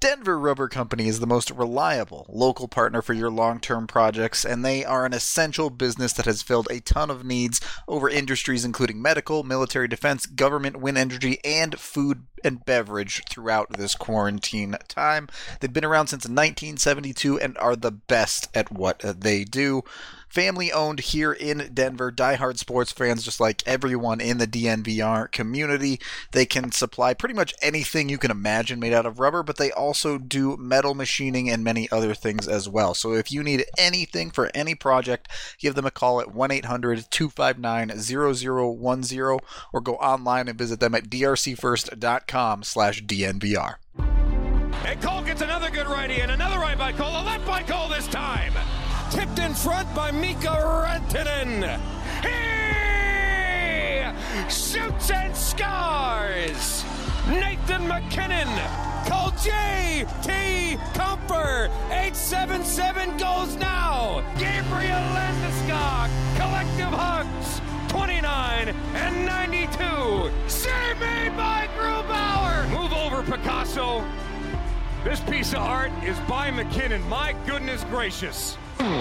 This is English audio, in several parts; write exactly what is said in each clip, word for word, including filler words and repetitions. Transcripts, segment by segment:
Denver Rubber Company is the most reliable local partner for your long-term projects, and they are an essential business that has filled a ton of needs over industries including medical, military defense, government, wind energy, and food and beverage throughout this quarantine time. They've been around since nineteen seventy-two and are the best at what they do. Family owned here in Denver, diehard sports fans just like everyone in the D N V R community. They can supply pretty much anything you can imagine made out of rubber, but they also do metal machining and many other things as well. So if you need anything for any project, give them a call at one eight hundred two five nine zero zero one zero or go online and visit them at d r c first dot com slash D N V R. And Cole gets another good righty and another right by Cole, a left by Cole this time. Tipped in front by Mika Rantanen. He shoots and scores. Nathan MacKinnon. Cole J T Comfer. eight seven seven goes now. Gabriel Landeskog. Collective hugs. twenty-nine and ninety-two. Save made by Grubauer. Move over, Picasso. This piece of art is by McKinnon. My goodness gracious.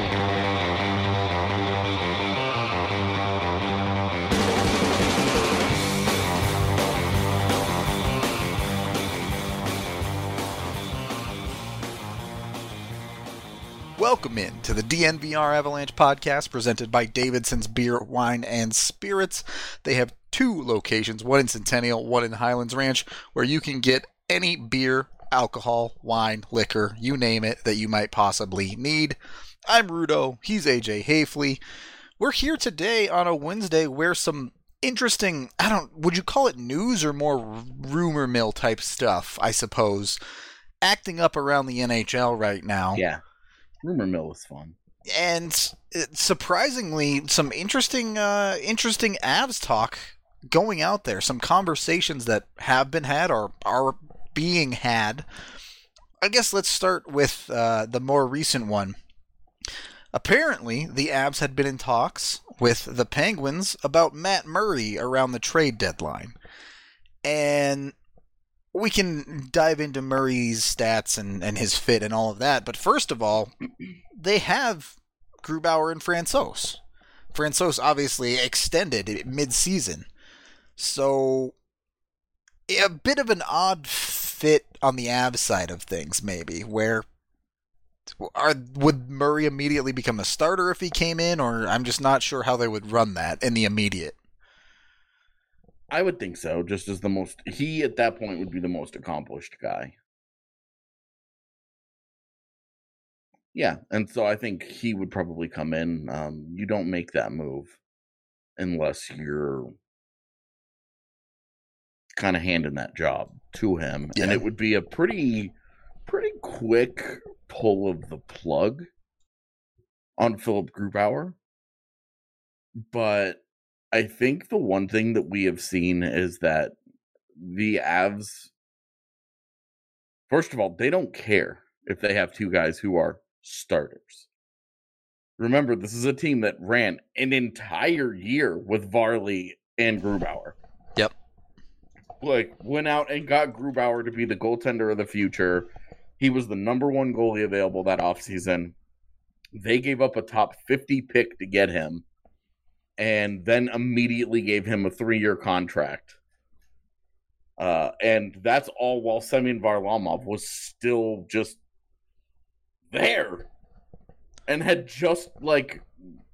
Welcome in to the D N V R Avalanche podcast presented by Davidson's Beer, Wine, and Spirits. They have two locations, one in Centennial, one in Highlands Ranch, where you can get any beer, alcohol, wine, liquor, you name it, that you might possibly need. I'm Rudo. He's A J Hafley. We're here today on a Wednesday where some interesting, I don't, would you call it news or more rumor mill type stuff, I suppose, acting up around the N H L right now. Yeah. Rumor mill is fun. And surprisingly, some interesting, uh, interesting Avs talk going out there. Some conversations that have been had or are being had. I guess let's start with uh, the more recent one. Apparently, the Avs had been in talks with the Penguins about Matt Murray around the trade deadline. And we can dive into Murray's stats and, and his fit and all of that. But first of all, they have Grubauer and Francouz. Francouz obviously extended mid-season. So a bit of an odd fit on the Avs side of things, maybe, where are, would Murray immediately become a starter if he came in? Or I'm just not sure how they would run that in the immediate. I would think so, just as the most, he at that point would be the most accomplished guy. Yeah, and so I think he would probably come in. Um, you don't make that move unless you're kind of handing that job to him. Yeah. And it would be a pretty, pretty quick pull of the plug on Philip Grubauer. But I think the one thing that we have seen is that the Avs, first of all, they don't care if they have two guys who are starters. Remember, this is a team that ran an entire year with Varley and Grubauer. Yep. Like, went out and got Grubauer to be the goaltender of the future. He was the number one goalie available that offseason. They gave up a top fifty pick to get him, and then immediately gave him a three-year contract. Uh, and that's all while Semyon Varlamov was still just there. And had just, like...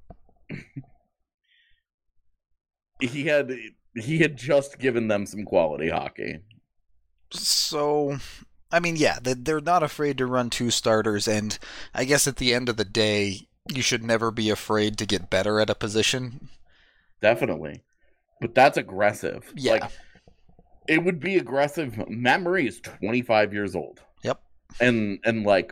he had he had just given them some quality hockey. So, I mean, yeah, they're not afraid to run two starters, and I guess at the end of the day, you should never be afraid to get better at a position. Definitely. But that's aggressive. Yeah. Like, it would be aggressive. Matt Murray is twenty-five years old. Yep. And, and like,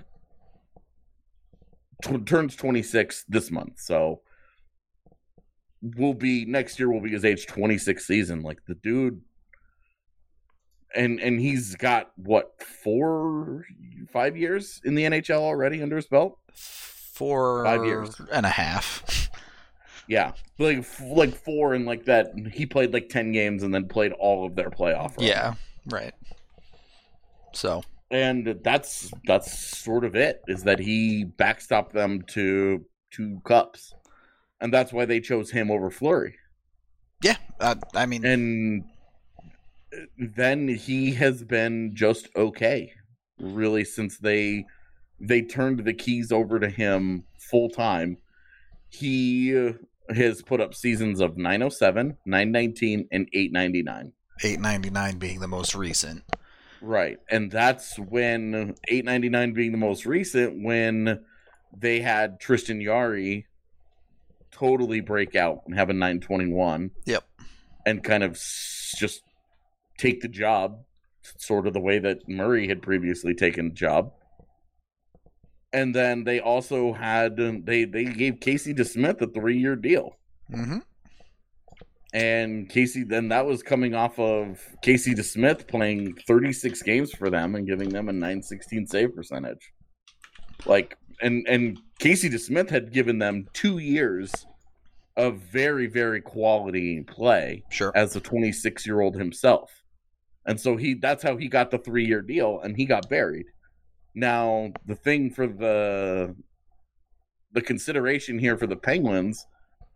t- turns twenty-six this month. So, will be, next year will be his age twenty-six season. Like, the dude, and and he's got, what, four, five years in the N H L already under his belt? Four Five years. and a half. Yeah, like like four and like that. He played like ten games and then played all of their playoff runs. Yeah, right. So, And that's that's sort of it, is that he backstopped them to two cups. And that's why they chose him over Fleury. Yeah, uh, I mean... And then he has been just okay, really, since they they turned the keys over to him full time. He has put up seasons of nine oh seven, nine nineteen, and eight ninety-nine. eight ninety-nine being the most recent. Right, and that's when eight ninety-nine being the most recent, when they had Tristan Yari totally break out and have a nine twenty-one. Yep. And kind of just take the job, sort of the way that Murray had previously taken the job. And then they also had, they, they gave Casey DeSmith a three-year deal. Mm-hmm. And Casey, then that was coming off of Casey DeSmith playing thirty-six games for them and giving them a nine sixteen save percentage. Like, and, and Casey DeSmith had given them two years of very, very quality play. Sure. As a twenty-six-year-old himself. And so he that's how he got the three-year deal, and he got buried. Now, the thing for the the consideration here for the Penguins,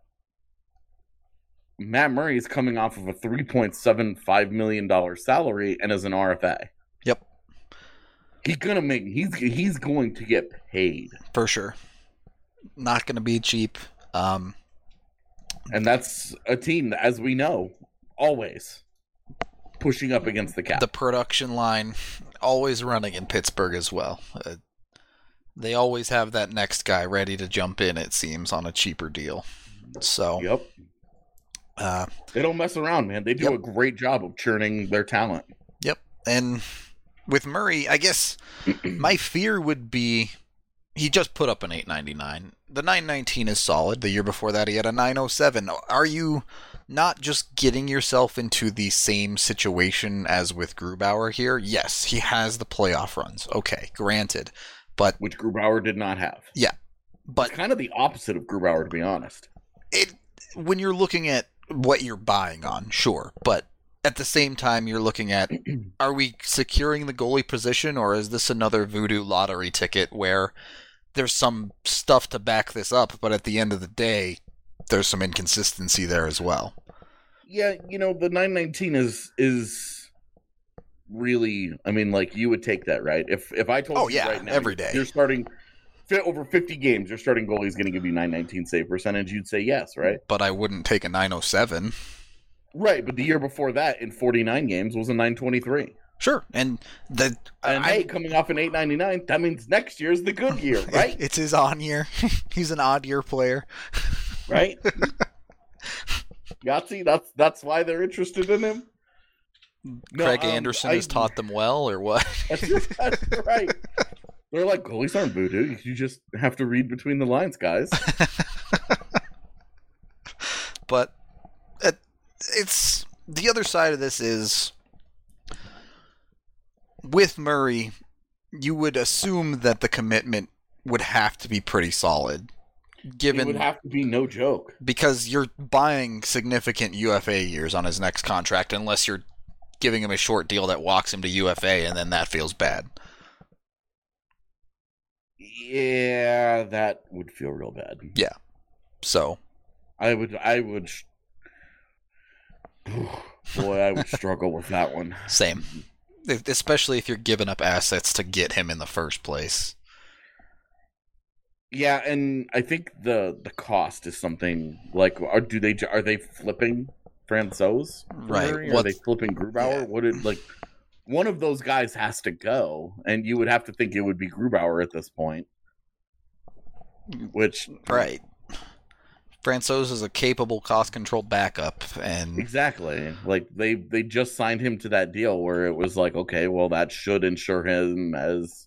Matt Murray is coming off of a three point seven five million dollars salary and is an R F A. Yep. He's gonna make he's he's going to get paid. For sure. Not gonna be cheap. Um And that's a team that, as we know, always pushing up against the cap. The production line always running in Pittsburgh as well. Uh, they always have that next guy ready to jump in, it seems, on a cheaper deal. So, yep. Uh, they don't mess around, man. They do yep. a great job of churning their talent. Yep. And with Murray, I guess my fear would be he just put up an eight ninety-nine. The nine nineteen is solid. The year before that, he had a nine oh seven. Are you not just getting yourself into the same situation as with Grubauer here? Yes, he has the playoff runs. Okay, granted. But which Grubauer did not have. Yeah. But it's kind of the opposite of Grubauer, to be honest. It when you're looking at what you're buying on, sure. But at the same time, you're looking at, are we securing the goalie position, or is this another voodoo lottery ticket where there's some stuff to back this up, but at the end of the day, there's some inconsistency there as well? Yeah, you know, the nine nineteen is is really, I mean, like, you would take that, right? If if I told oh, you yeah, right now, every day. You're starting over fifty games, your starting goalie is going to give you nine nineteen save percentage, you'd say yes, right? But I wouldn't take a nine oh seven. Right, but the year before that, in forty-nine games, was a nine twenty-three. Sure, and the and I, hey, coming off an eight ninety-nine, that means next year's the good year, right? It's his on year. He's an odd year player, right? Yahtzee, that's that's why they're interested in him. No, Craig um, Anderson I, has taught them well, or what? That's, that's right. They're like, goalies aren't voodoo. You just have to read between the lines, guys. But it, it's the other side of this is with Murray, you would assume that the commitment would have to be pretty solid. Given, it would have to be no joke. Because you're buying significant U F A years on his next contract, unless you're giving him a short deal that walks him to U F A, and then that feels bad. Yeah, that would feel real bad. Yeah. So. I would, I would, boy, I would struggle with that one. Same. Especially if you're giving up assets to get him in the first place. Yeah, and I think the the cost is something like, are do they are they flipping Francouz? Right. Are they flipping Grubauer? Yeah. What did like one of those guys has to go, and you would have to think it would be Grubauer at this point. Which right. Francouz is a capable cost control backup, and exactly like they they just signed him to that deal where it was like, okay, well that should ensure him as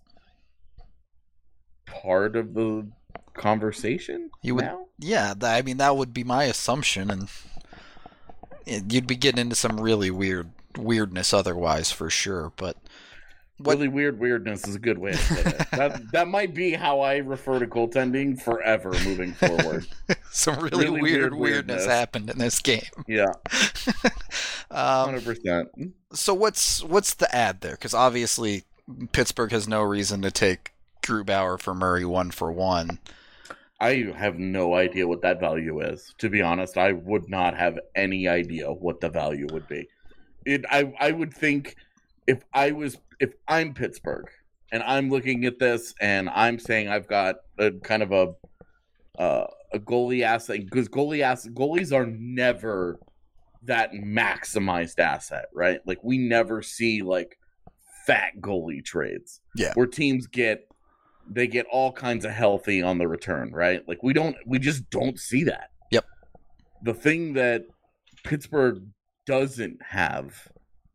part of the conversation. You would, now? Yeah. I mean, that would be my assumption, and you'd be getting into some really weird weirdness otherwise, for sure. But what... really weird weirdness is a good way to say it. That that might be how I refer to goaltending forever moving forward. Some really, really weird, weird weirdness, weirdness happened in this game. Yeah, um, hundred percent. So what's what's the ad there? Because obviously Pittsburgh has no reason to take Grubauer for Murray one for one. I have no idea what that value is. To be honest, I would not have any idea what the value would be. It, I, I would think if I was, if I'm Pittsburgh and I'm looking at this and I'm saying I've got a kind of a, uh, a goalie asset, because goalie ass goalies are never that maximized asset, right? Like we never see like fat goalie trades, yeah, where teams get they get all kinds of healthy on the return, right? Like we don't, we just don't see that. Yep. The thing that Pittsburgh doesn't have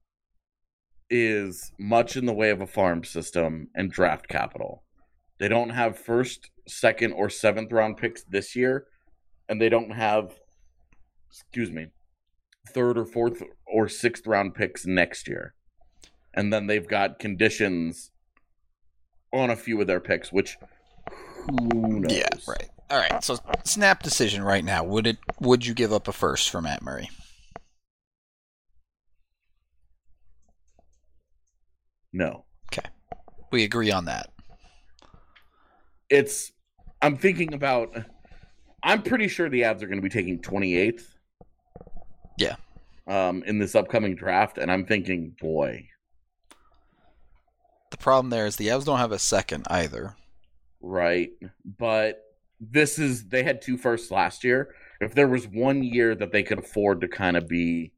is much in the way of a farm system and draft capital. They don't have first, second, or seventh round picks this year, and they don't have, excuse me, third or fourth or sixth round picks next year. And then they've got conditions on a few of their picks, which who knows? Yeah, right. All right. So snap decision right now. Would it? Would you give up a first for Matt Murray? No. Okay. We agree on that. It's. I'm thinking about. I'm pretty sure the Avs are going to be taking twenty-eighth. Yeah. Um, in this upcoming draft, and I'm thinking, boy. The problem there is the Avs don't have a second either. Right. But this is, they had two firsts last year. If there was one year that they could afford to kind of be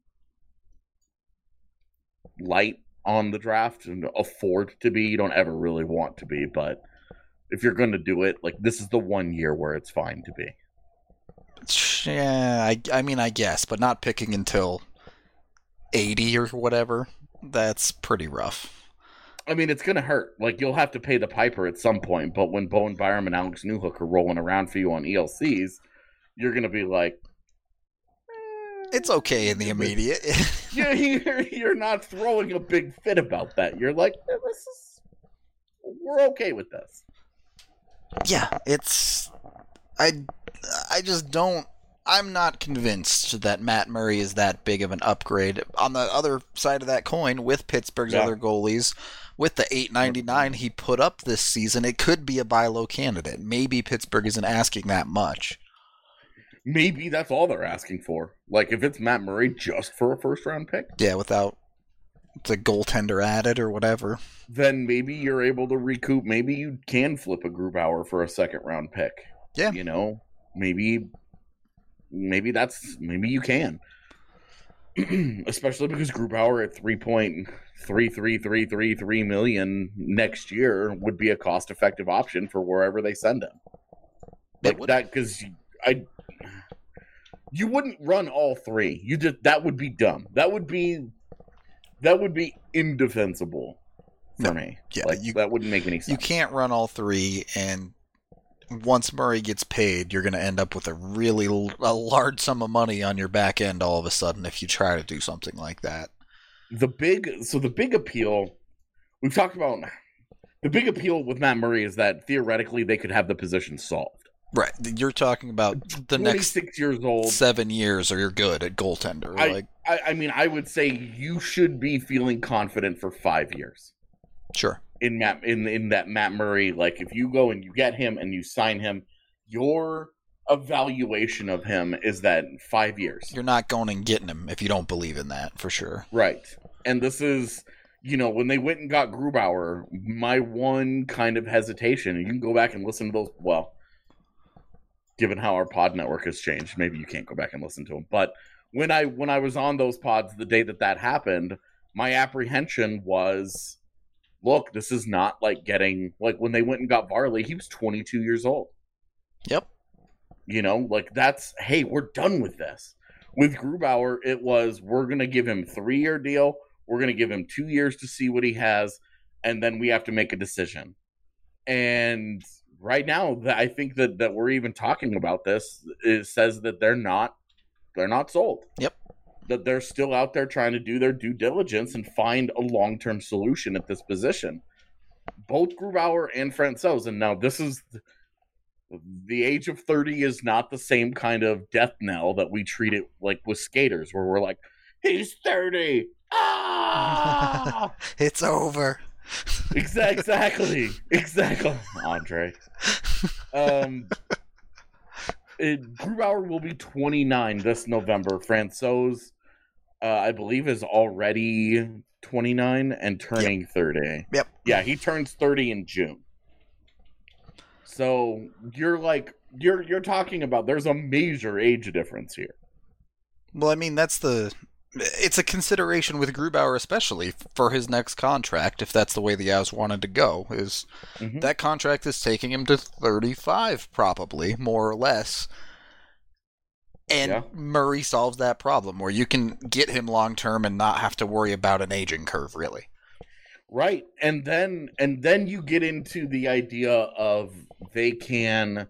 light on the draft and afford to be, you don't ever really want to be, but if you're going to do it, like this is the one year where it's fine to be. Yeah, I, I mean, I guess, but not picking until eighty or whatever. That's pretty rough. I mean, it's going to hurt. Like, you'll have to pay the piper at some point, but when Bowen Byram and Alex Newhook are rolling around for you on E L Cs, you're going to be like... Eh, it's okay in the immediate. you're, you're, you're not throwing a big fit about that. You're like, eh, this is... We're okay with this. Yeah, it's... I, I just don't... I'm not convinced that Matt Murray is that big of an upgrade. On the other side of that coin, with Pittsburgh's yeah. other goalies, with the eight ninety-nine he put up this season, it could be a buy low candidate. Maybe Pittsburgh isn't asking that much. Maybe that's all they're asking for. Like, if it's Matt Murray just for a first-round pick? Yeah, without the goaltender added or whatever. Then maybe you're able to recoup. Maybe you can flip a Grubauer for a second-round pick. Yeah. You know? Maybe... Maybe that's maybe you can, especially because Grubauer at three point three three three three three million next year would be a cost effective option for wherever they send him. Like that, because I you wouldn't run all three. You just that would be dumb. That would be that would be indefensible for no, me. Yeah, like you, that wouldn't make any sense. You can't run all three, and once Murray gets paid, you're going to end up with a really a large sum of money on your back end all of a sudden if you try to do something like that. The big so the big appeal we've talked about the big appeal with Matt Murray is that theoretically they could have the position solved. Right. You're talking about the next twenty-six years old, seven years, or you're good at goaltender. I, like, I, I mean, I would say you should be feeling confident for five years. Sure. In Matt, in in that Matt Murray, like if you go and you get him and you sign him, your evaluation of him is that five years. You're not going and getting him if you don't believe in that, for sure. Right. And this is, you know, when they went and got Grubauer, my one kind of hesitation, and you can go back and listen to those, well, given how our pod network has changed, maybe you can't go back and listen to them. But when I when I was on those pods the day that that happened, my apprehension was, look, this is not like getting, like when they went and got Varley, he was twenty-two years old. Yep. You know, like that's, hey, we're done with this. With Grubauer, it was, we're going to give him a three-year deal. We're going to give him two years to see what he has. And then we have to make a decision. And right now, I think that, that we're even talking about this. It says that they're not, they're not sold. Yep. That they're still out there trying to do their due diligence and find a long-term solution at this position. Both Grubauer and Francouz, and now this is the age of thirty is not the same kind of death knell that we treat it like with skaters, where we're like, he's thirty. Ah! It's over. Exactly, exactly, Andre. Um, it, Grubauer will be twenty-nine this November. Francouz, uh, I believe, is already twenty-nine and turning yep. thirty. Yep. Yeah, he turns thirty in June. So you're like you're you're talking about there's a major age difference here. Well, I mean that's the. It's a consideration with Grubauer, especially for his next contract, if that's the way the Avs wanted to go. Is mm-hmm. that contract is taking him to thirty-five, probably, more or less. And yeah. Murray solves that problem, where you can get him long-term and not have to worry about an aging curve, really. Right, and then and then you get into the idea of they can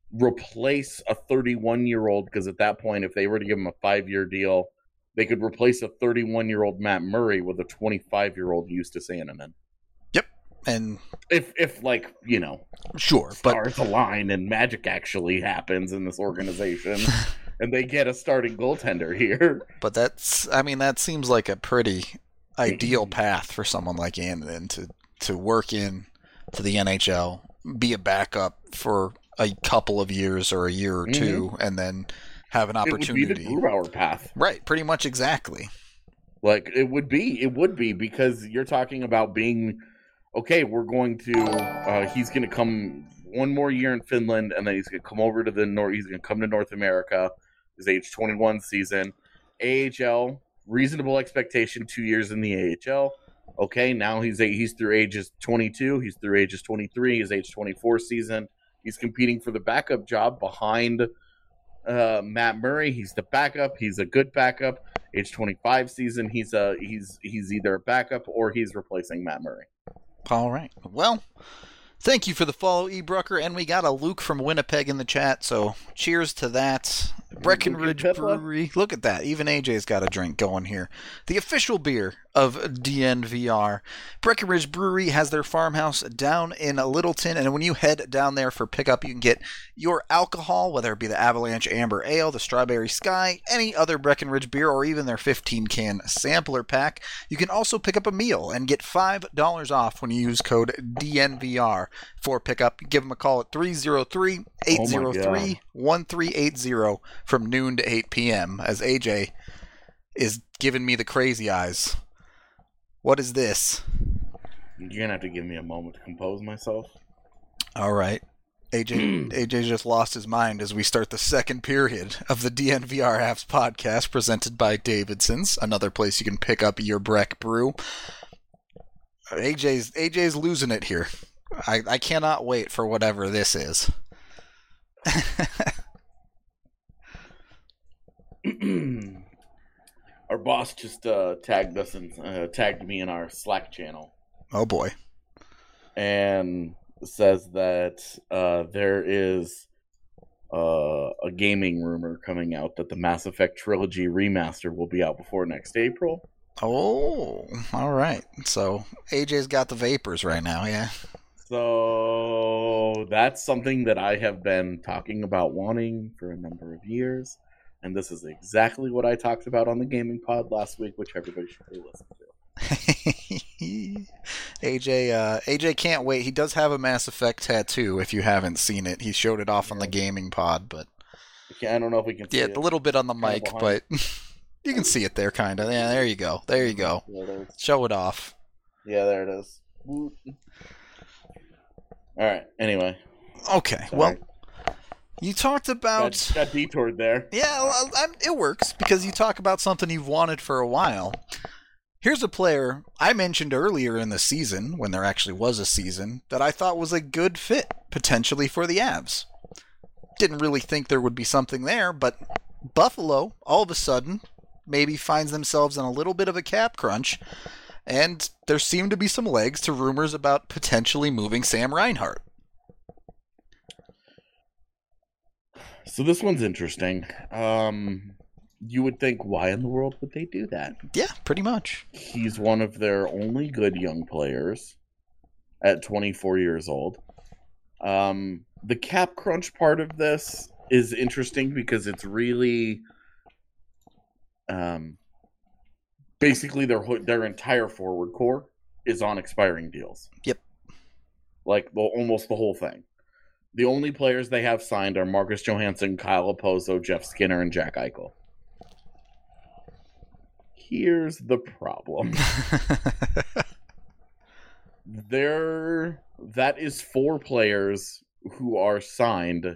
replace a thirty-one-year-old, because at that point, if they were to give him a five-year deal, they could replace a thirty-one-year-old Matt Murray with a twenty-five-year-old Justus Annunen. Yep, and if if like you know, sure, stars but align and magic actually happens in this organization, and they get a starting goaltender here. But that's, I mean, that seems like a pretty ideal path for someone like Annunen to to work in to the N H L, be a backup for a couple of years or a year or two, mm-hmm. and then have an opportunity. It would be the Grubauer path. Right, pretty much exactly. Like, it would be, it would be, because you're talking about being, okay, we're going to, uh, he's going to come one more year in Finland, and then he's going to come over to the North, he's going to come to North America, his age twenty-one season. A H L, reasonable expectation, two years in the A H L. Okay, now he's he's through ages twenty-two, he's through ages twenty-three, his age twenty-four season. He's competing for the backup job behind Uh, Matt Murray. He's the backup. He's a good backup. Age twenty-five season. He's a he's he's either a backup or he's replacing Matt Murray. All right. Well, thank you for the follow, E. Brucker, and we got a Luke from Winnipeg in the chat. So cheers to that. Breckenridge Brewery. Look at that. Even A J's got a drink going here. The official beer of D N V R. Breckenridge Brewery has their farmhouse down in Littleton, and when you head down there for pickup, you can get your alcohol, whether it be the Avalanche Amber Ale, the Strawberry Sky, any other Breckenridge beer, or even their fifteen-can sampler pack. You can also pick up a meal and get five dollars off when you use code D N V R for pickup. Give them a call at three oh three, eight oh three, one three eight oh from noon to eight p.m. as A J is giving me the crazy eyes. What is this? You're going to have to give me a moment to compose myself. All right. A J A J just lost his mind as we start the second period of the D N V R Avs podcast presented by Davidson's, another place you can pick up your Breck brew. A J's A J's losing it here. I, I cannot wait for whatever this is. Our boss just uh, tagged us and uh, tagged me in our Slack channel. Oh boy! And says that uh, there is uh, a gaming rumor coming out that the Mass Effect Trilogy remaster will be out before next April. Oh, all right. So A J's got the vapors right now, yeah. So that's something that I have been talking about wanting for a number of years. And this is exactly what I talked about on the Gaming Pod last week, which everybody should really listen to. A J, uh, A J can't wait. He does have a Mass Effect tattoo. If you haven't seen it, he showed it off on the Gaming Pod, but I don't know if we can. See yeah, it. a little bit on the mic, but you can see it there, kind of. Yeah, there you go. There you go. Yeah, show it off. Yeah, there it is. All right. Anyway. Okay. Sorry. Well. You talked about... Got, got detoured there. Yeah, well, I'm, it works, because you talk about something you've wanted for a while. Here's a player I mentioned earlier in the season, when there actually was a season, that I thought was a good fit, potentially, for the Avs. Didn't really think there would be something there, but Buffalo, all of a sudden, maybe finds themselves in a little bit of a cap crunch, and there seem to be some legs to rumors about potentially moving Sam Reinhart. So this one's interesting. Um, you would think, why in the world would they do that? Yeah, pretty much. He's one of their only good young players at twenty-four years old. Um, the cap crunch part of this is interesting because it's really um, basically their their entire forward core is on expiring deals. Yep. Like, well, almost the whole thing. The only players they have signed are Marcus Johansson, Kyle Opozo, Jeff Skinner, and Jack Eichel. Here's the problem. there, that is four players who are signed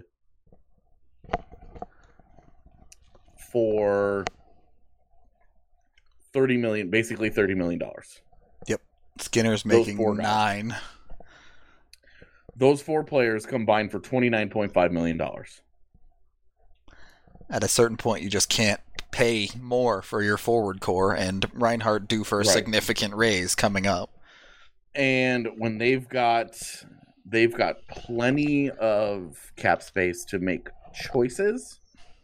for thirty million, basically thirty million dollars. Yep. Skinner's making four guys. nine. Those four players combined for twenty-nine point five million dollars. At a certain point, you just can't pay more for your forward core, and Reinhart due for a Right. significant raise coming up. And when they've got they've got plenty of cap space to make choices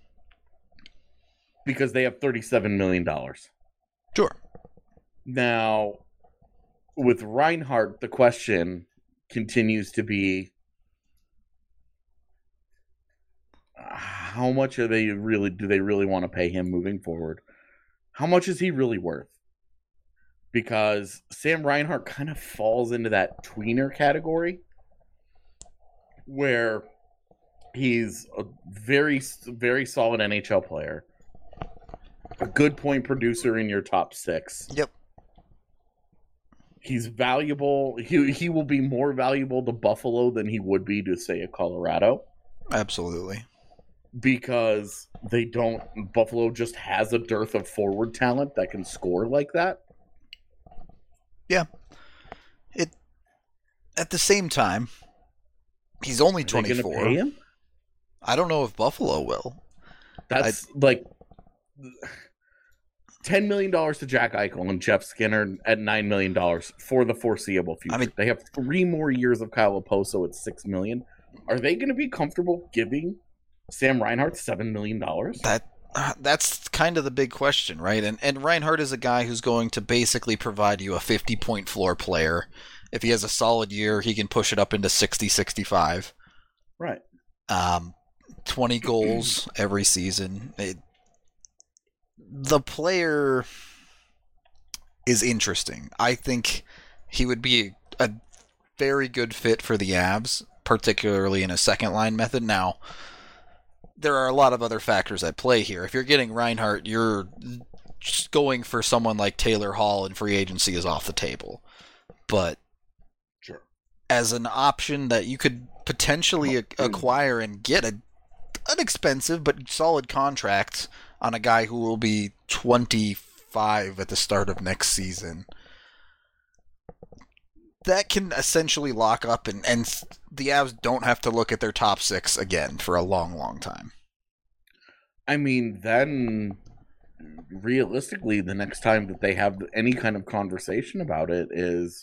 because they have thirty-seven million dollars. Sure. Now, with Reinhart, the question continues to be, how much are they really do they really want to pay him moving forward? How much is he really worth? Because Sam Reinhart kind of falls into that tweener category where he's a very, very solid N H L player, a good point producer in your top six. Yep. He's valuable. He he will be more valuable to Buffalo than he would be to, say, a Colorado. Absolutely. Because they don't. Buffalo just has a dearth of forward talent that can score like that. Yeah. It. At the same time, he's only Are they gonna twenty-four. pay him? I don't know if Buffalo will. That's like ten million dollars to Jack Eichel and Jeff Skinner at nine million dollars for the foreseeable future. I mean- they have three more years of Kyle Oposo at six million dollars. Are they going to be comfortable giving Sam Reinhart seven million dollars? That uh, that's kind of the big question, right? And and Reinhart is a guy who's going to basically provide you a fifty-point floor player. If he has a solid year, he can push it up into sixty, sixty-five. Right. Um, twenty goals every season. It, the player is interesting. I think he would be a very good fit for the Avs, particularly in a second line method. Now, there are a lot of other factors at play here. If you're getting Reinhart, you're just going for someone like Taylor Hall, and free agency is off the table. But Sure. as an option that you could potentially a- acquire and get a an expensive but solid contract on a guy who will be twenty-five at the start of next season, that can essentially lock up, and, and the Avs don't have to look at their top six again for a long, long time. I mean, then realistically, the next time that they have any kind of conversation about it is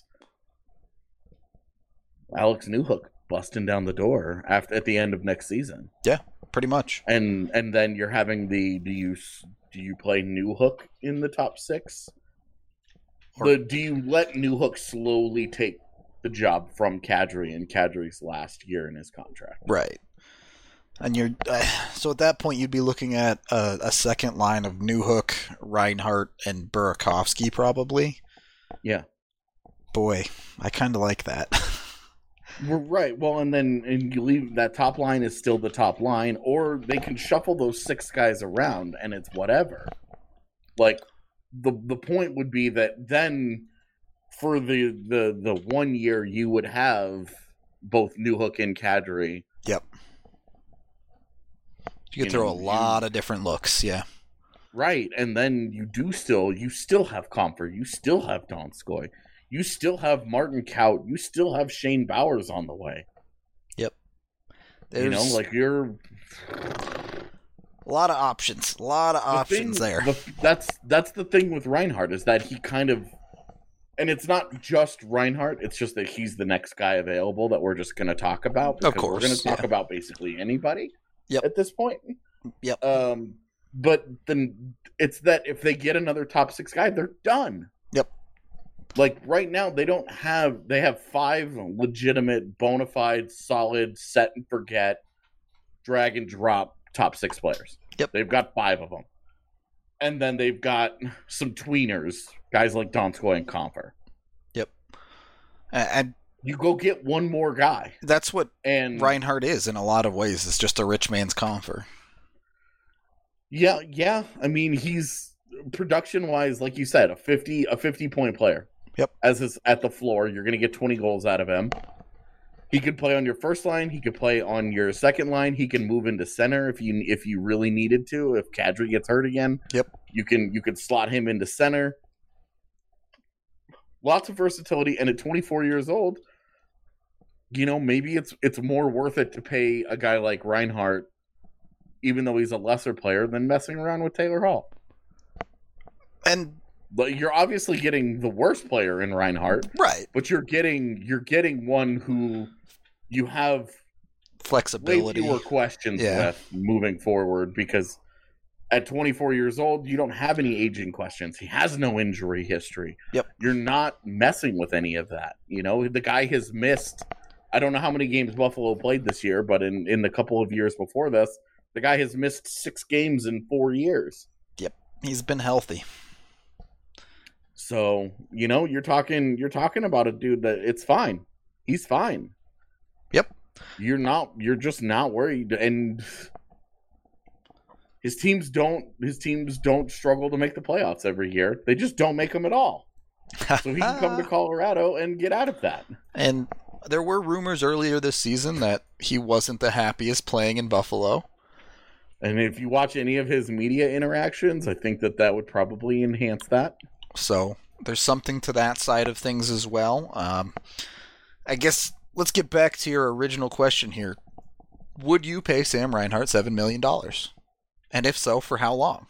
Alex Newhook busting down the door after at the end of next season. Yeah, pretty much. And and then you're having the do you do you play Newhook in the top six? Or- The, do you let Newhook slowly take the job from Kadri in Kadri's last year in his contract? Right. And you're uh, so at that point you'd be looking at a, a second line of Newhook, Reinhart, and Burakovsky probably. Yeah. Boy, I kind of like that. We're right. Well, and then and you leave that top line is still the top line, or they can shuffle those six guys around and it's whatever. Like the the point would be that then for the the the one year you would have both Newhook and Kadri. Yep. You could You throw know, a you- lot of different looks, yeah. Right, and then you do still you still have Comfort, you still have Donskoy, you still have Martin Kaut, you still have Shane Bowers on the way. Yep. You know, There's like you're a lot of options. A lot of the options thing- there. the- that's that's the thing with Reinhart is that he kind of, and it's not just Reinhart. It's just that he's the next guy available that we're just going to talk about. Of because we're course, going to talk yeah. about basically anybody. Yep. At this point. Yep. Um, but then it's that if they get another top six guy, they're done. Yep. Like right now, they don't have. They have five legitimate, bona fide, solid, set and forget, drag and drop top six players. Yep. They've got five of them. And then they've got some tweeners, guys like Donskoy and Comfer. Yep. And you go get one more guy. That's what and Reinhart is in a lot of ways. It's just a rich man's Compher. Yeah, yeah. I mean, he's production wise, like you said, a fifty a fifty point player. Yep. As is at the floor, you're going to get twenty goals out of him. He could play on your first line. He could play on your second line. He can move into center if you if you really needed to. If Kadri gets hurt again, yep, you can you could slot him into center. Lots of versatility, and at twenty-four years old, you know, maybe it's it's more worth it to pay a guy like Reinhart, even though he's a lesser player, than messing around with Taylor Hall. And but you're obviously getting the worst player in Reinhart, right? But you're getting you're getting one who you have flexibility, way fewer questions yeah. with moving forward, because at twenty-four years old, you don't have any aging questions. He has no injury history. Yep. You're not messing with any of that. You know, the guy has missed, I don't know how many games Buffalo played this year, but in, in the couple of years before this, the guy has missed six games in four years. Yep. He's been healthy. So, you know, you're talking you're talking about a dude that it's fine. He's fine. Yep. You're not you're just not worried, and his teams don't his teams don't struggle to make the playoffs every year. They just don't make them at all. So he can come to Colorado and get out of that. And there were rumors earlier this season that he wasn't the happiest playing in Buffalo. And if you watch any of his media interactions, I think that that would probably enhance that. So there's something to that side of things as well. Um, I guess let's get back to your original question here. Would you pay Sam Reinhart seven million dollars? And if so, for how long?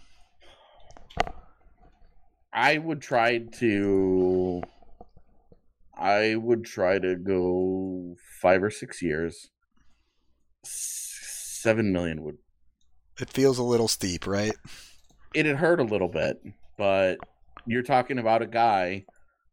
I would try to... I would try to go five or six years. Seven million would... It feels a little steep, right? It'd hurt a little bit, but... You're talking about a guy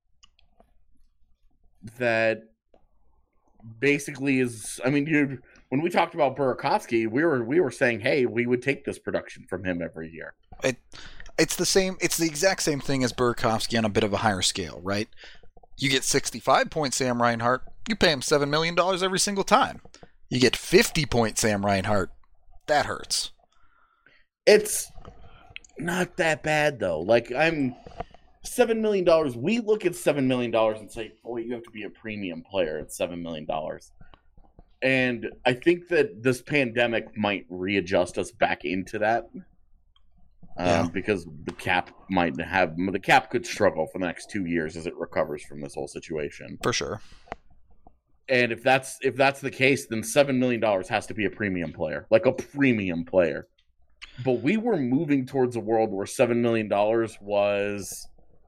that basically is. I mean, you when we talked about Burakovsky, we were we were saying, hey, we would take this production from him every year. It, it's the same. It's the exact same thing as Burakovsky on a bit of a higher scale, right? You get sixty-five point Sam Reinhart, you pay him seven million dollars every single time. You get fifty point Sam Reinhart, that hurts. It's not that bad though. Like I'm. Seven million dollars. We look at seven million dollars and say, "Boy, you have to be a premium player at seven million dollars." And I think that this pandemic might readjust us back into that, yeah. um, because the cap might have the cap could struggle for the next two years as it recovers from this whole situation. For sure. And if that's if that's the case, then seven million dollars has to be a premium player, like a premium player. But we were moving towards a world where seven million dollars was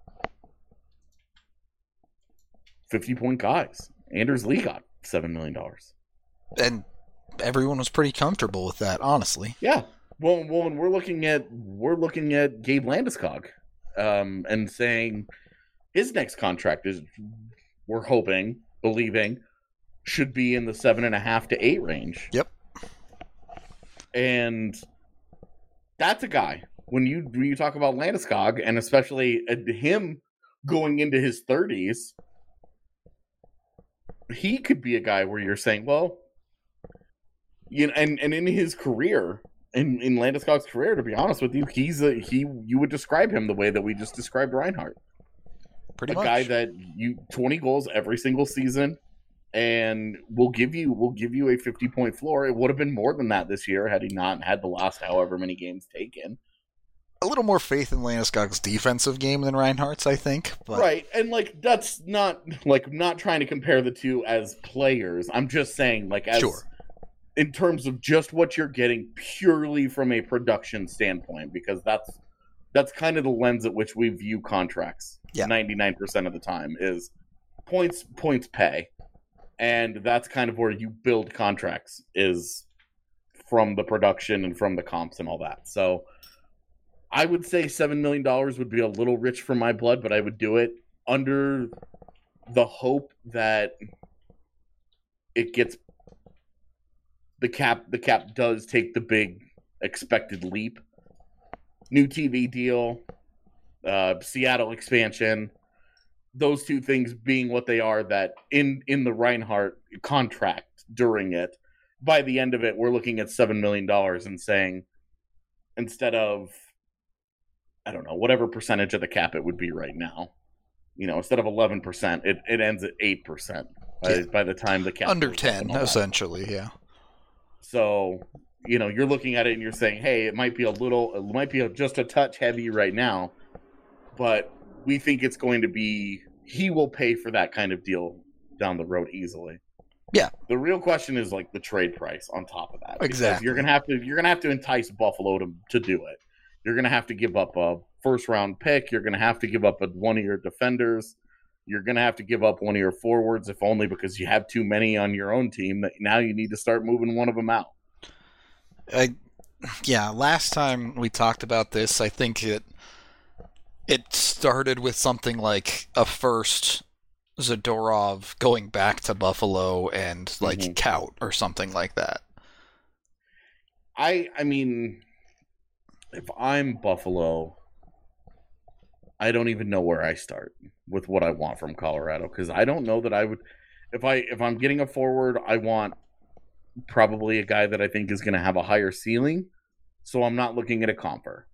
fifty-point guys. Anders Lee got seven million dollars. And everyone was pretty comfortable with that, honestly. Yeah. Well, well and we're looking at we're looking at Gabe Landeskog um, and saying his next contract is, we're hoping, believing, should be in the seven and a half to eight range. Yep. And that's a guy. When you when you talk about Landeskog, and especially him going into his thirties, he could be a guy where you're saying, well, you know, and, and in his career, in, in Landeskog's career, to be honest with you, he's a he. You would describe him the way that we just described Reinhart. Pretty a much. guy that you twenty goals every single season, and will give you will give you a fifty point floor. It would have been more than that this year had he not had the last however many games taken. A little more faith in Landeskog's defensive game than Reinhardt's, I think. But... Right, and like that's not like not trying to compare the two as players. I'm just saying, like, as sure. in terms of just what you're getting purely from a production standpoint, because that's that's kind of the lens at which we view contracts. Yeah. ninety-nine percent of the time is points points pay, and that's kind of where you build contracts, is from the production and from the comps and all that. So I would say seven million dollars would be a little rich for my blood, but I would do it under the hope that it gets the cap. The cap does take the big expected leap. New T V deal, uh, Seattle expansion. those two things being what they are, that in, in the Reinhart contract during it, by the end of it, we're looking at seven million dollars and saying, instead of, I don't know, whatever percentage of the cap it would be right now, you know, instead of eleven percent, it, it ends at eight percent by, Yeah. by the time the cap Under goes up ten, and all that. essentially, yeah. So, you know, you're looking at it and you're saying, hey, it might be a little, it might be just a touch heavy right now, but we think it's going to be, he will pay for that kind of deal down the road easily. Yeah. The real question is like the trade price on top of that. Because Exactly. You're gonna have to you're gonna have to entice Buffalo to to do it. You're gonna have to give up a first round pick. You're gonna have to give up a, one of your defenders. You're gonna have to give up one of your forwards, if only because you have too many on your own team that now you need to start moving one of them out. I, yeah, last time we talked about this, I think it it started with something like a first Zadorov going back to Buffalo and like Mhm. Kaut or something like that. I I mean, if I'm Buffalo, I don't even know where I start with what I want from Colorado, because I don't know that I would. If I if I'm getting a forward, I want probably a guy that I think is going to have a higher ceiling. So I'm not looking at a comper.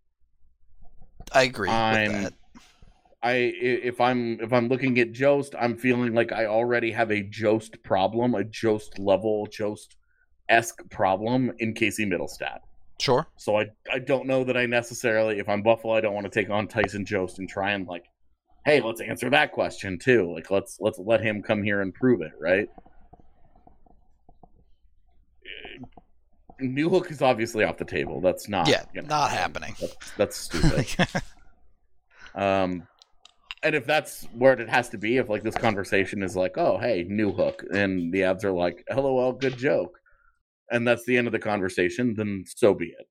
I agree I'm- with that. I if I'm if I'm looking at Jost, I'm feeling like I already have a Jost problem, a Jost level, Jost-esque problem in Casey Middlestat. Sure. So I I don't know that I necessarily, if I'm Buffalo, I don't want to take on Tyson Jost and try and like, hey, let's answer that question too. Like let's let's let him come here and prove it, right? Newhook is obviously off the table. That's not Yeah, gonna not happen. happening. That's, that's stupid. um, and if that's where it has to be, if like this conversation is like, oh hey, Newhook, and the Avs are like, lol, good joke, and that's the end of the conversation, then so be it.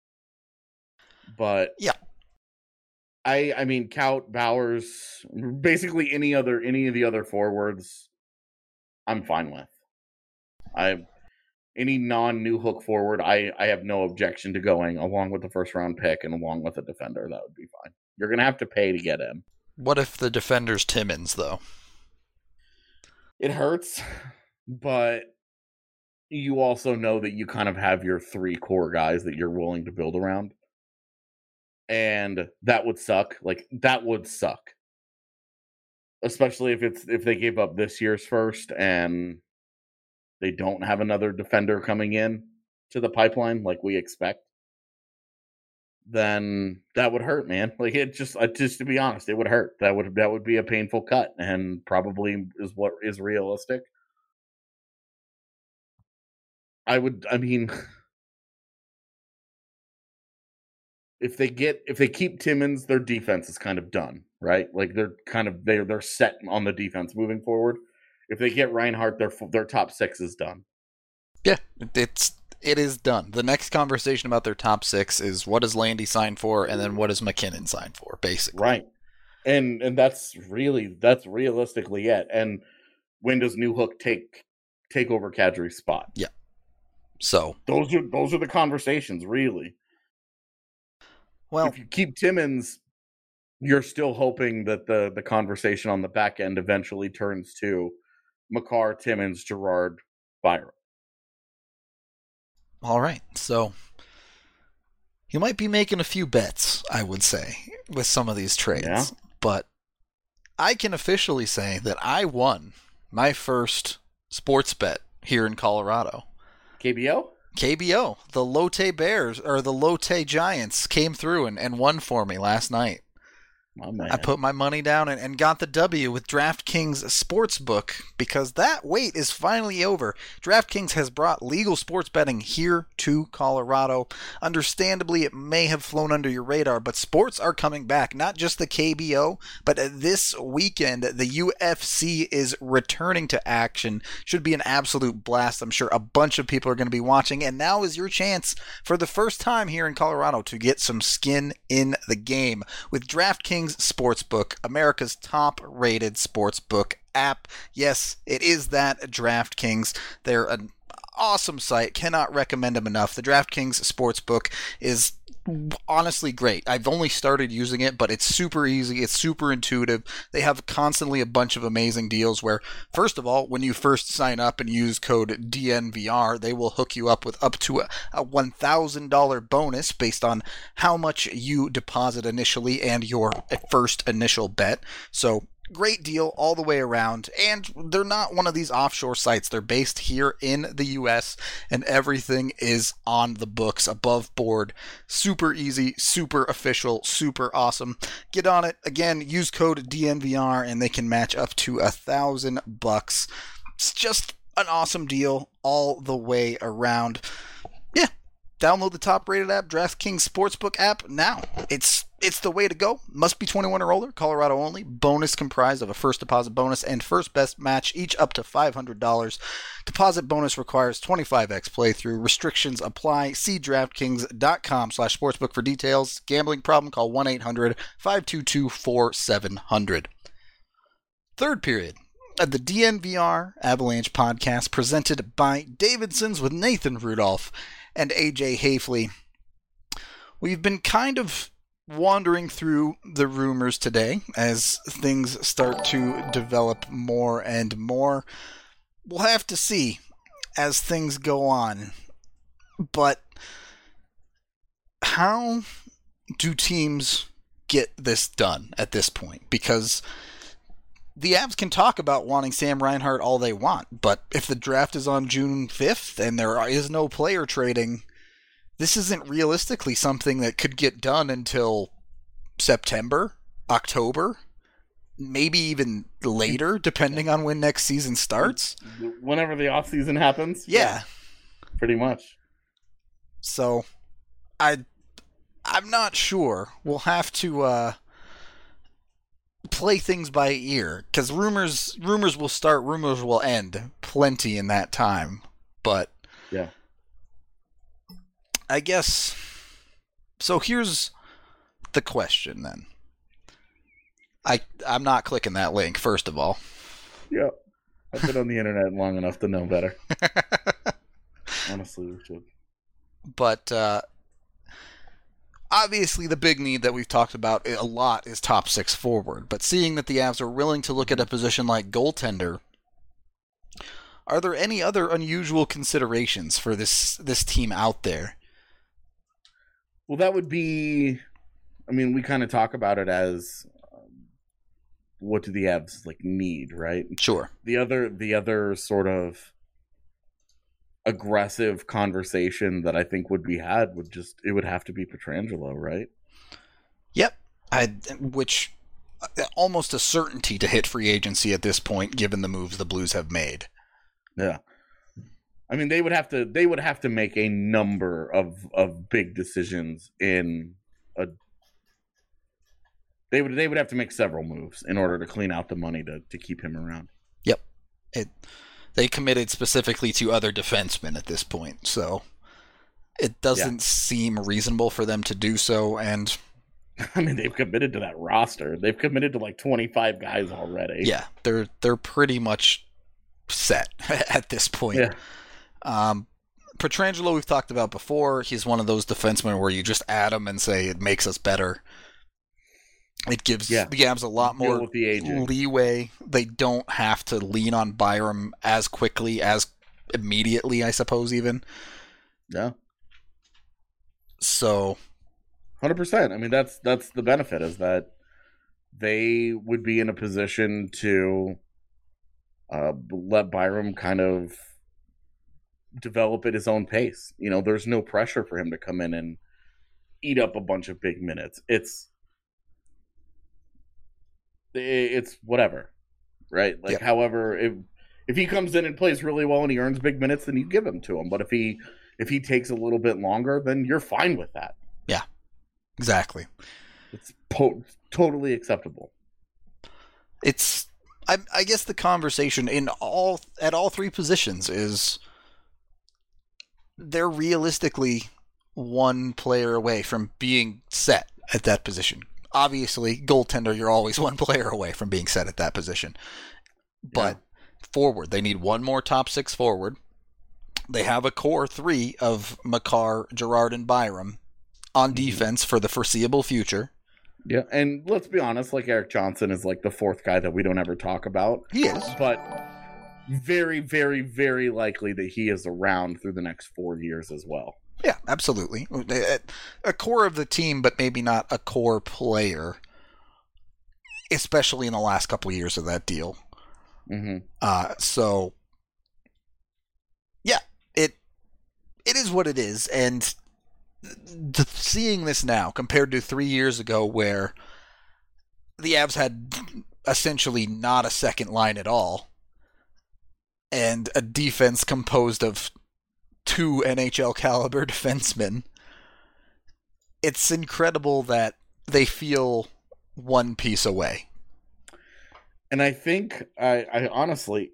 But Yeah. I I mean, Kaut, Bowers, basically any other any of the other forwards, I'm fine with. I any non Newhook forward, I I have no objection to going along with the first round pick and along with a defender. That would be fine. You're gonna have to pay to get him. What if the defender's Timmins, though? It hurts, but you also know that you kind of have your three core guys that you're willing to build around. And that would suck. Like that would suck. Especially if it's if they gave up this year's first and they don't have another defender coming in to the pipeline like we expect. Then that would hurt, man. Like it just uh, just to be honest, it would hurt. That would that would be a painful cut and probably is what is realistic. I would I mean if they get if they keep Timmins, their defense is kind of done, right? Like they're kind of they're they're set on the defense moving forward. If they get Reinhart, their their top six is done. Yeah, it's it is done. The next conversation about their top six is what does Landy sign for, and then what does McKinnon sign for, basically. Right. And and that's really that's realistically it. And when does Newhook take take over Kadri's spot? Yeah. So Those are those are the conversations, really. well, If you keep Timmins, you're still hoping that the the conversation on the back end eventually turns to Makar, Timmins, Gerard, Byron. all right. So you might be making a few bets, I would say, with some of these trades. Yeah. But I can officially say that I won my first sports bet here in Colorado. K B O? K B O, the Lotte Bears, or the Lotte Giants, came through and, and won for me last night. My man. I put my money down and, and got the W with DraftKings Sportsbook because that wait is finally over. DraftKings has brought legal sports betting here to Colorado. Understandably, it may have flown under your radar, but sports are coming back. Not just the K B O, but this weekend, the U F C is returning to action. Should be an absolute blast. I'm sure a bunch of people are going to be watching, and now is your chance for the first time here in Colorado to get some skin in the game with DraftKings Sportsbook, America's top-rated sportsbook app. Yes, it is that DraftKings. They're an awesome site. Cannot recommend them enough. The DraftKings Sportsbook is honestly great. I've only started using it, but it's super easy. It's super intuitive. They have constantly a bunch of amazing deals where, first of all, when you first sign up and use code D N V R, they will hook you up with up to a, a one thousand dollars bonus based on how much you deposit initially and your first initial bet. So great deal all the way around, and they're not one of these offshore sites. They're based here in the U S, and everything is on the books, above board. Super easy, super official, super awesome. Get on it. Again, use code D N V R, and they can match up to a thousand bucks. It's just an awesome deal all the way around. Yeah, download the top-rated app, DraftKings Sportsbook app now. It's It's the way to go. Must be twenty-one or older. Colorado only. Bonus comprised of a first deposit bonus and first best match, each up to five hundred dollars. Deposit bonus requires twenty-five x playthrough. Restrictions apply. See DraftKings.com slash sportsbook for details. Gambling problem? Call one eight hundred five two two four seven zero zero. Third period of the D N V R Avalanche podcast, presented by Davidson's with Nathan Rudolph and A J Hafley. We've been kind of wandering through the rumors today as things start to develop more and more. We'll have to see as things go on. But how do teams get this done at this point? Because the Avs can talk about wanting Sam Reinhart all they want, but if the draft is on June fifth and there is no player trading, this isn't realistically something that could get done until September, October, maybe even later, depending on when next season starts. Whenever the offseason happens. Yeah. yeah. Pretty much. So, I, I'm not sure. We'll have to uh, play things by ear, because rumors, rumors will start, rumors will end. Plenty in that time. But yeah. I guess, so here's the question then. I, I'm not clicking that link, first of all. Yeah. I've been on the internet long enough to know better. Honestly, we should. But, uh, obviously the big need that we've talked about a lot is top six forward. But seeing that the Avs are willing to look at a position like goaltender, are there any other unusual considerations for this this team out there? Well, that would be, I mean, we kind of talk about it as um, what do the Avs like need, right? Sure. The other, the other sort of aggressive conversation that I think would be had would just, it would have to be Pietrangelo, right? Yep. I, which uh, almost a certainty to hit free agency at this point, given the moves the Blues have made. Yeah. I mean, they would have to. They would have to make a number of, of big decisions in a. They would. They would have to make several moves in order to clean out the money to, to keep him around. Yep, it. They committed specifically to other defensemen at this point, so it doesn't yeah. seem reasonable for them to do so. And I mean, they've committed to that roster. They've committed to like twenty-five guys already. Yeah, they're they're pretty much set at this point. Yeah. Um, Pietrangelo we've talked about before. He's one of those defensemen where you just add him and say it makes us better. It gives yeah. the Avs a lot more the leeway. They don't have to lean on Byram as quickly, as immediately, I suppose, even. Yeah. So. one hundred percent. I mean, that's that's the benefit, is that they would be in a position to uh, let Byram kind of develop at his own pace. You know, there's no pressure for him to come in and eat up a bunch of big minutes. It's it's whatever, right? Like, yep. however, if if he comes in and plays really well and he earns big minutes, then you give them to him. But if he if he takes a little bit longer, then you're fine with that. Yeah, exactly. It's po- totally acceptable. It's I, I guess the conversation in all at all three positions is they're realistically one player away from being set at that position. Obviously, goaltender, you're always one player away from being set at that position. But yeah. forward, they need one more top six forward. They have a core three of Makar, Girard, and Byram. on defense for the foreseeable future. Yeah, and let's be honest, like Eric Johnson is like the fourth guy that we don't ever talk about. He is. But very, very, very likely that he is around through the next four years as well. Yeah, absolutely. A core of the team, but maybe not a core player, especially in the last couple of years of that deal. Mm-hmm. Uh, so, yeah, it it is what it is, and th- seeing this now compared to three years ago where the Avs had essentially not a second line at all, and a defense composed of two N H L caliber defensemen, it's incredible that they feel one piece away. And I think, I, I honestly,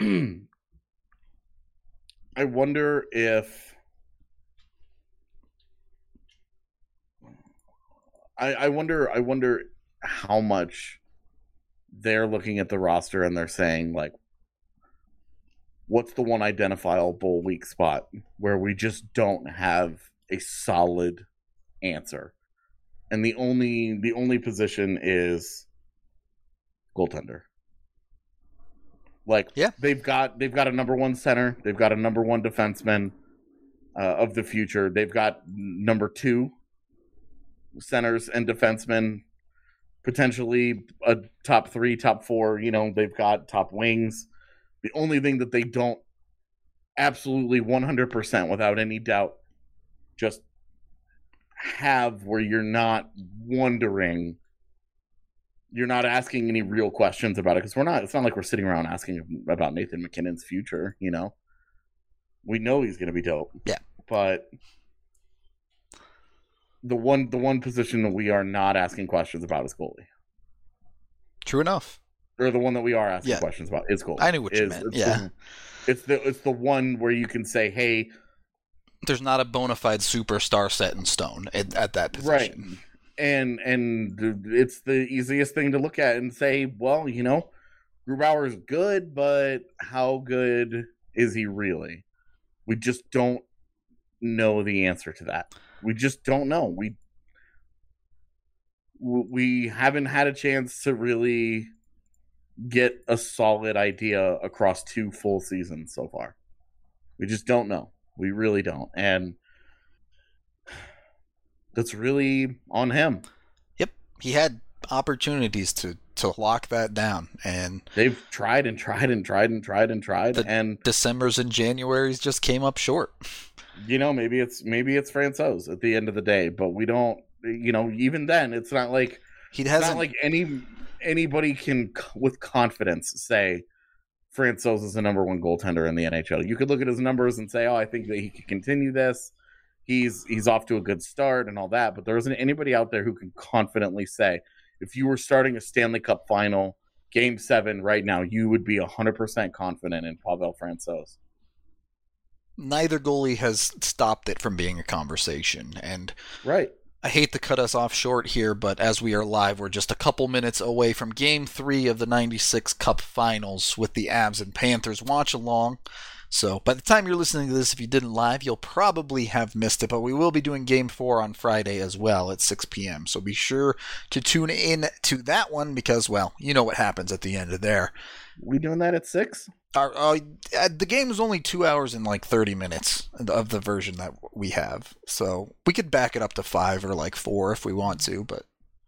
I wonder if, I, I wonder, I wonder how much they're looking at the roster and they're saying, like, what's the one identifiable weak spot where we just don't have a solid answer? And the only the only position is goaltender. Like, yeah. they've got they've got a number one center, they've got a number one defenseman uh, of the future, they've got number two centers and defensemen, potentially a top three, top four. You know, they've got top wings. The only thing that they don't absolutely one hundred percent without any doubt just have, where you're not wondering, you're not asking any real questions about it, because we're not, it's not like we're sitting around asking about Nathan MacKinnon's future, you know? We know he's going to be dope. Yeah. But the one, the one position that we are not asking questions about is goalie. True enough. Or the one that we are asking yeah. questions about is goalie. I knew what you is, meant. It's yeah. The, it's the it's the one where you can say, hey, there's not a bona fide superstar set in stone at, at that position. Right. And and it's the easiest thing to look at and say, well, you know, Grubauer's good, but how good is he really? We just don't know the answer to that. We just don't know. We we haven't had a chance to really get a solid idea across two full seasons so far. We just don't know. We really don't. And that's really on him. Yep. He had opportunities to, to lock that down, and they've tried and tried and tried and tried and tried. The and Decembers and Januaries just came up short. You know, maybe it's maybe it's Francouz at the end of the day, but we don't, you know, even then it's not like he hasn't, it's not like any anybody can with confidence say Francouz is the number one goaltender in the N H L. You could look at his numbers and say, oh, I think that he could continue this. He's he's off to a good start and all that, but there isn't anybody out there who can confidently say, if you were starting a Stanley Cup final, Game seven right now, you would be one hundred percent confident in Pavel Francouz. Neither goalie has stopped it from being a conversation, and right. I hate to cut us off short here, but as we are live, we're just a couple minutes away from Game three of the ninety-six Cup Finals with the Avs and Panthers. Watch along. So by the time you're listening to this, if you didn't live, you'll probably have missed it, but we will be doing Game four on Friday as well at six p.m. So be sure to tune in to that one because, well, you know what happens at the end of there. We doing that at six? Our, uh, the game is only two hours and like thirty minutes of the version that we have. So we could back it up to five or like four if we want to, but...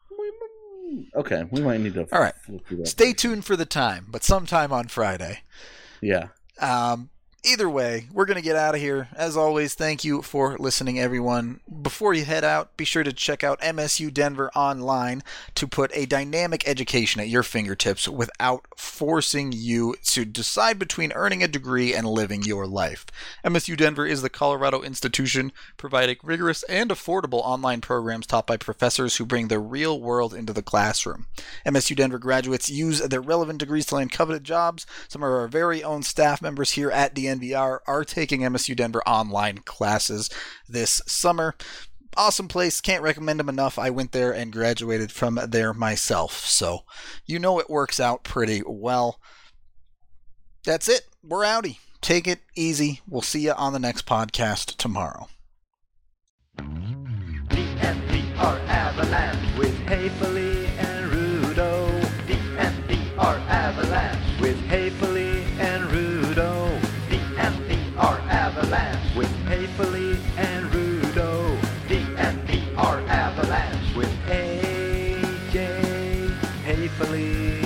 Okay, we might need to... All right, stay tuned for the time, but sometime on Friday. Yeah. Um... Either way, we're going to get out of here. As always, thank you for listening, everyone. Before you head out, be sure to check out M S U Denver online to put a dynamic education at your fingertips without forcing you to decide between earning a degree and living your life. M S U Denver is the Colorado institution providing rigorous and affordable online programs taught by professors who bring the real world into the classroom. M S U Denver graduates use their relevant degrees to land coveted jobs. Some of our very own staff members here at D N V R are taking M S U Denver online classes this summer. Awesome place. Can't recommend them enough. I went there and graduated from there myself. So you know it works out pretty well. That's it. We're outie. Take it easy. We'll see you on the next podcast tomorrow. R Avalanche with Hayfley and Rudo. D N V R Avalanche with Hayfley and Rudo. D N V R Avalanche with Hayfley and Rudo. D N V R Avalanche with A J Hayfley.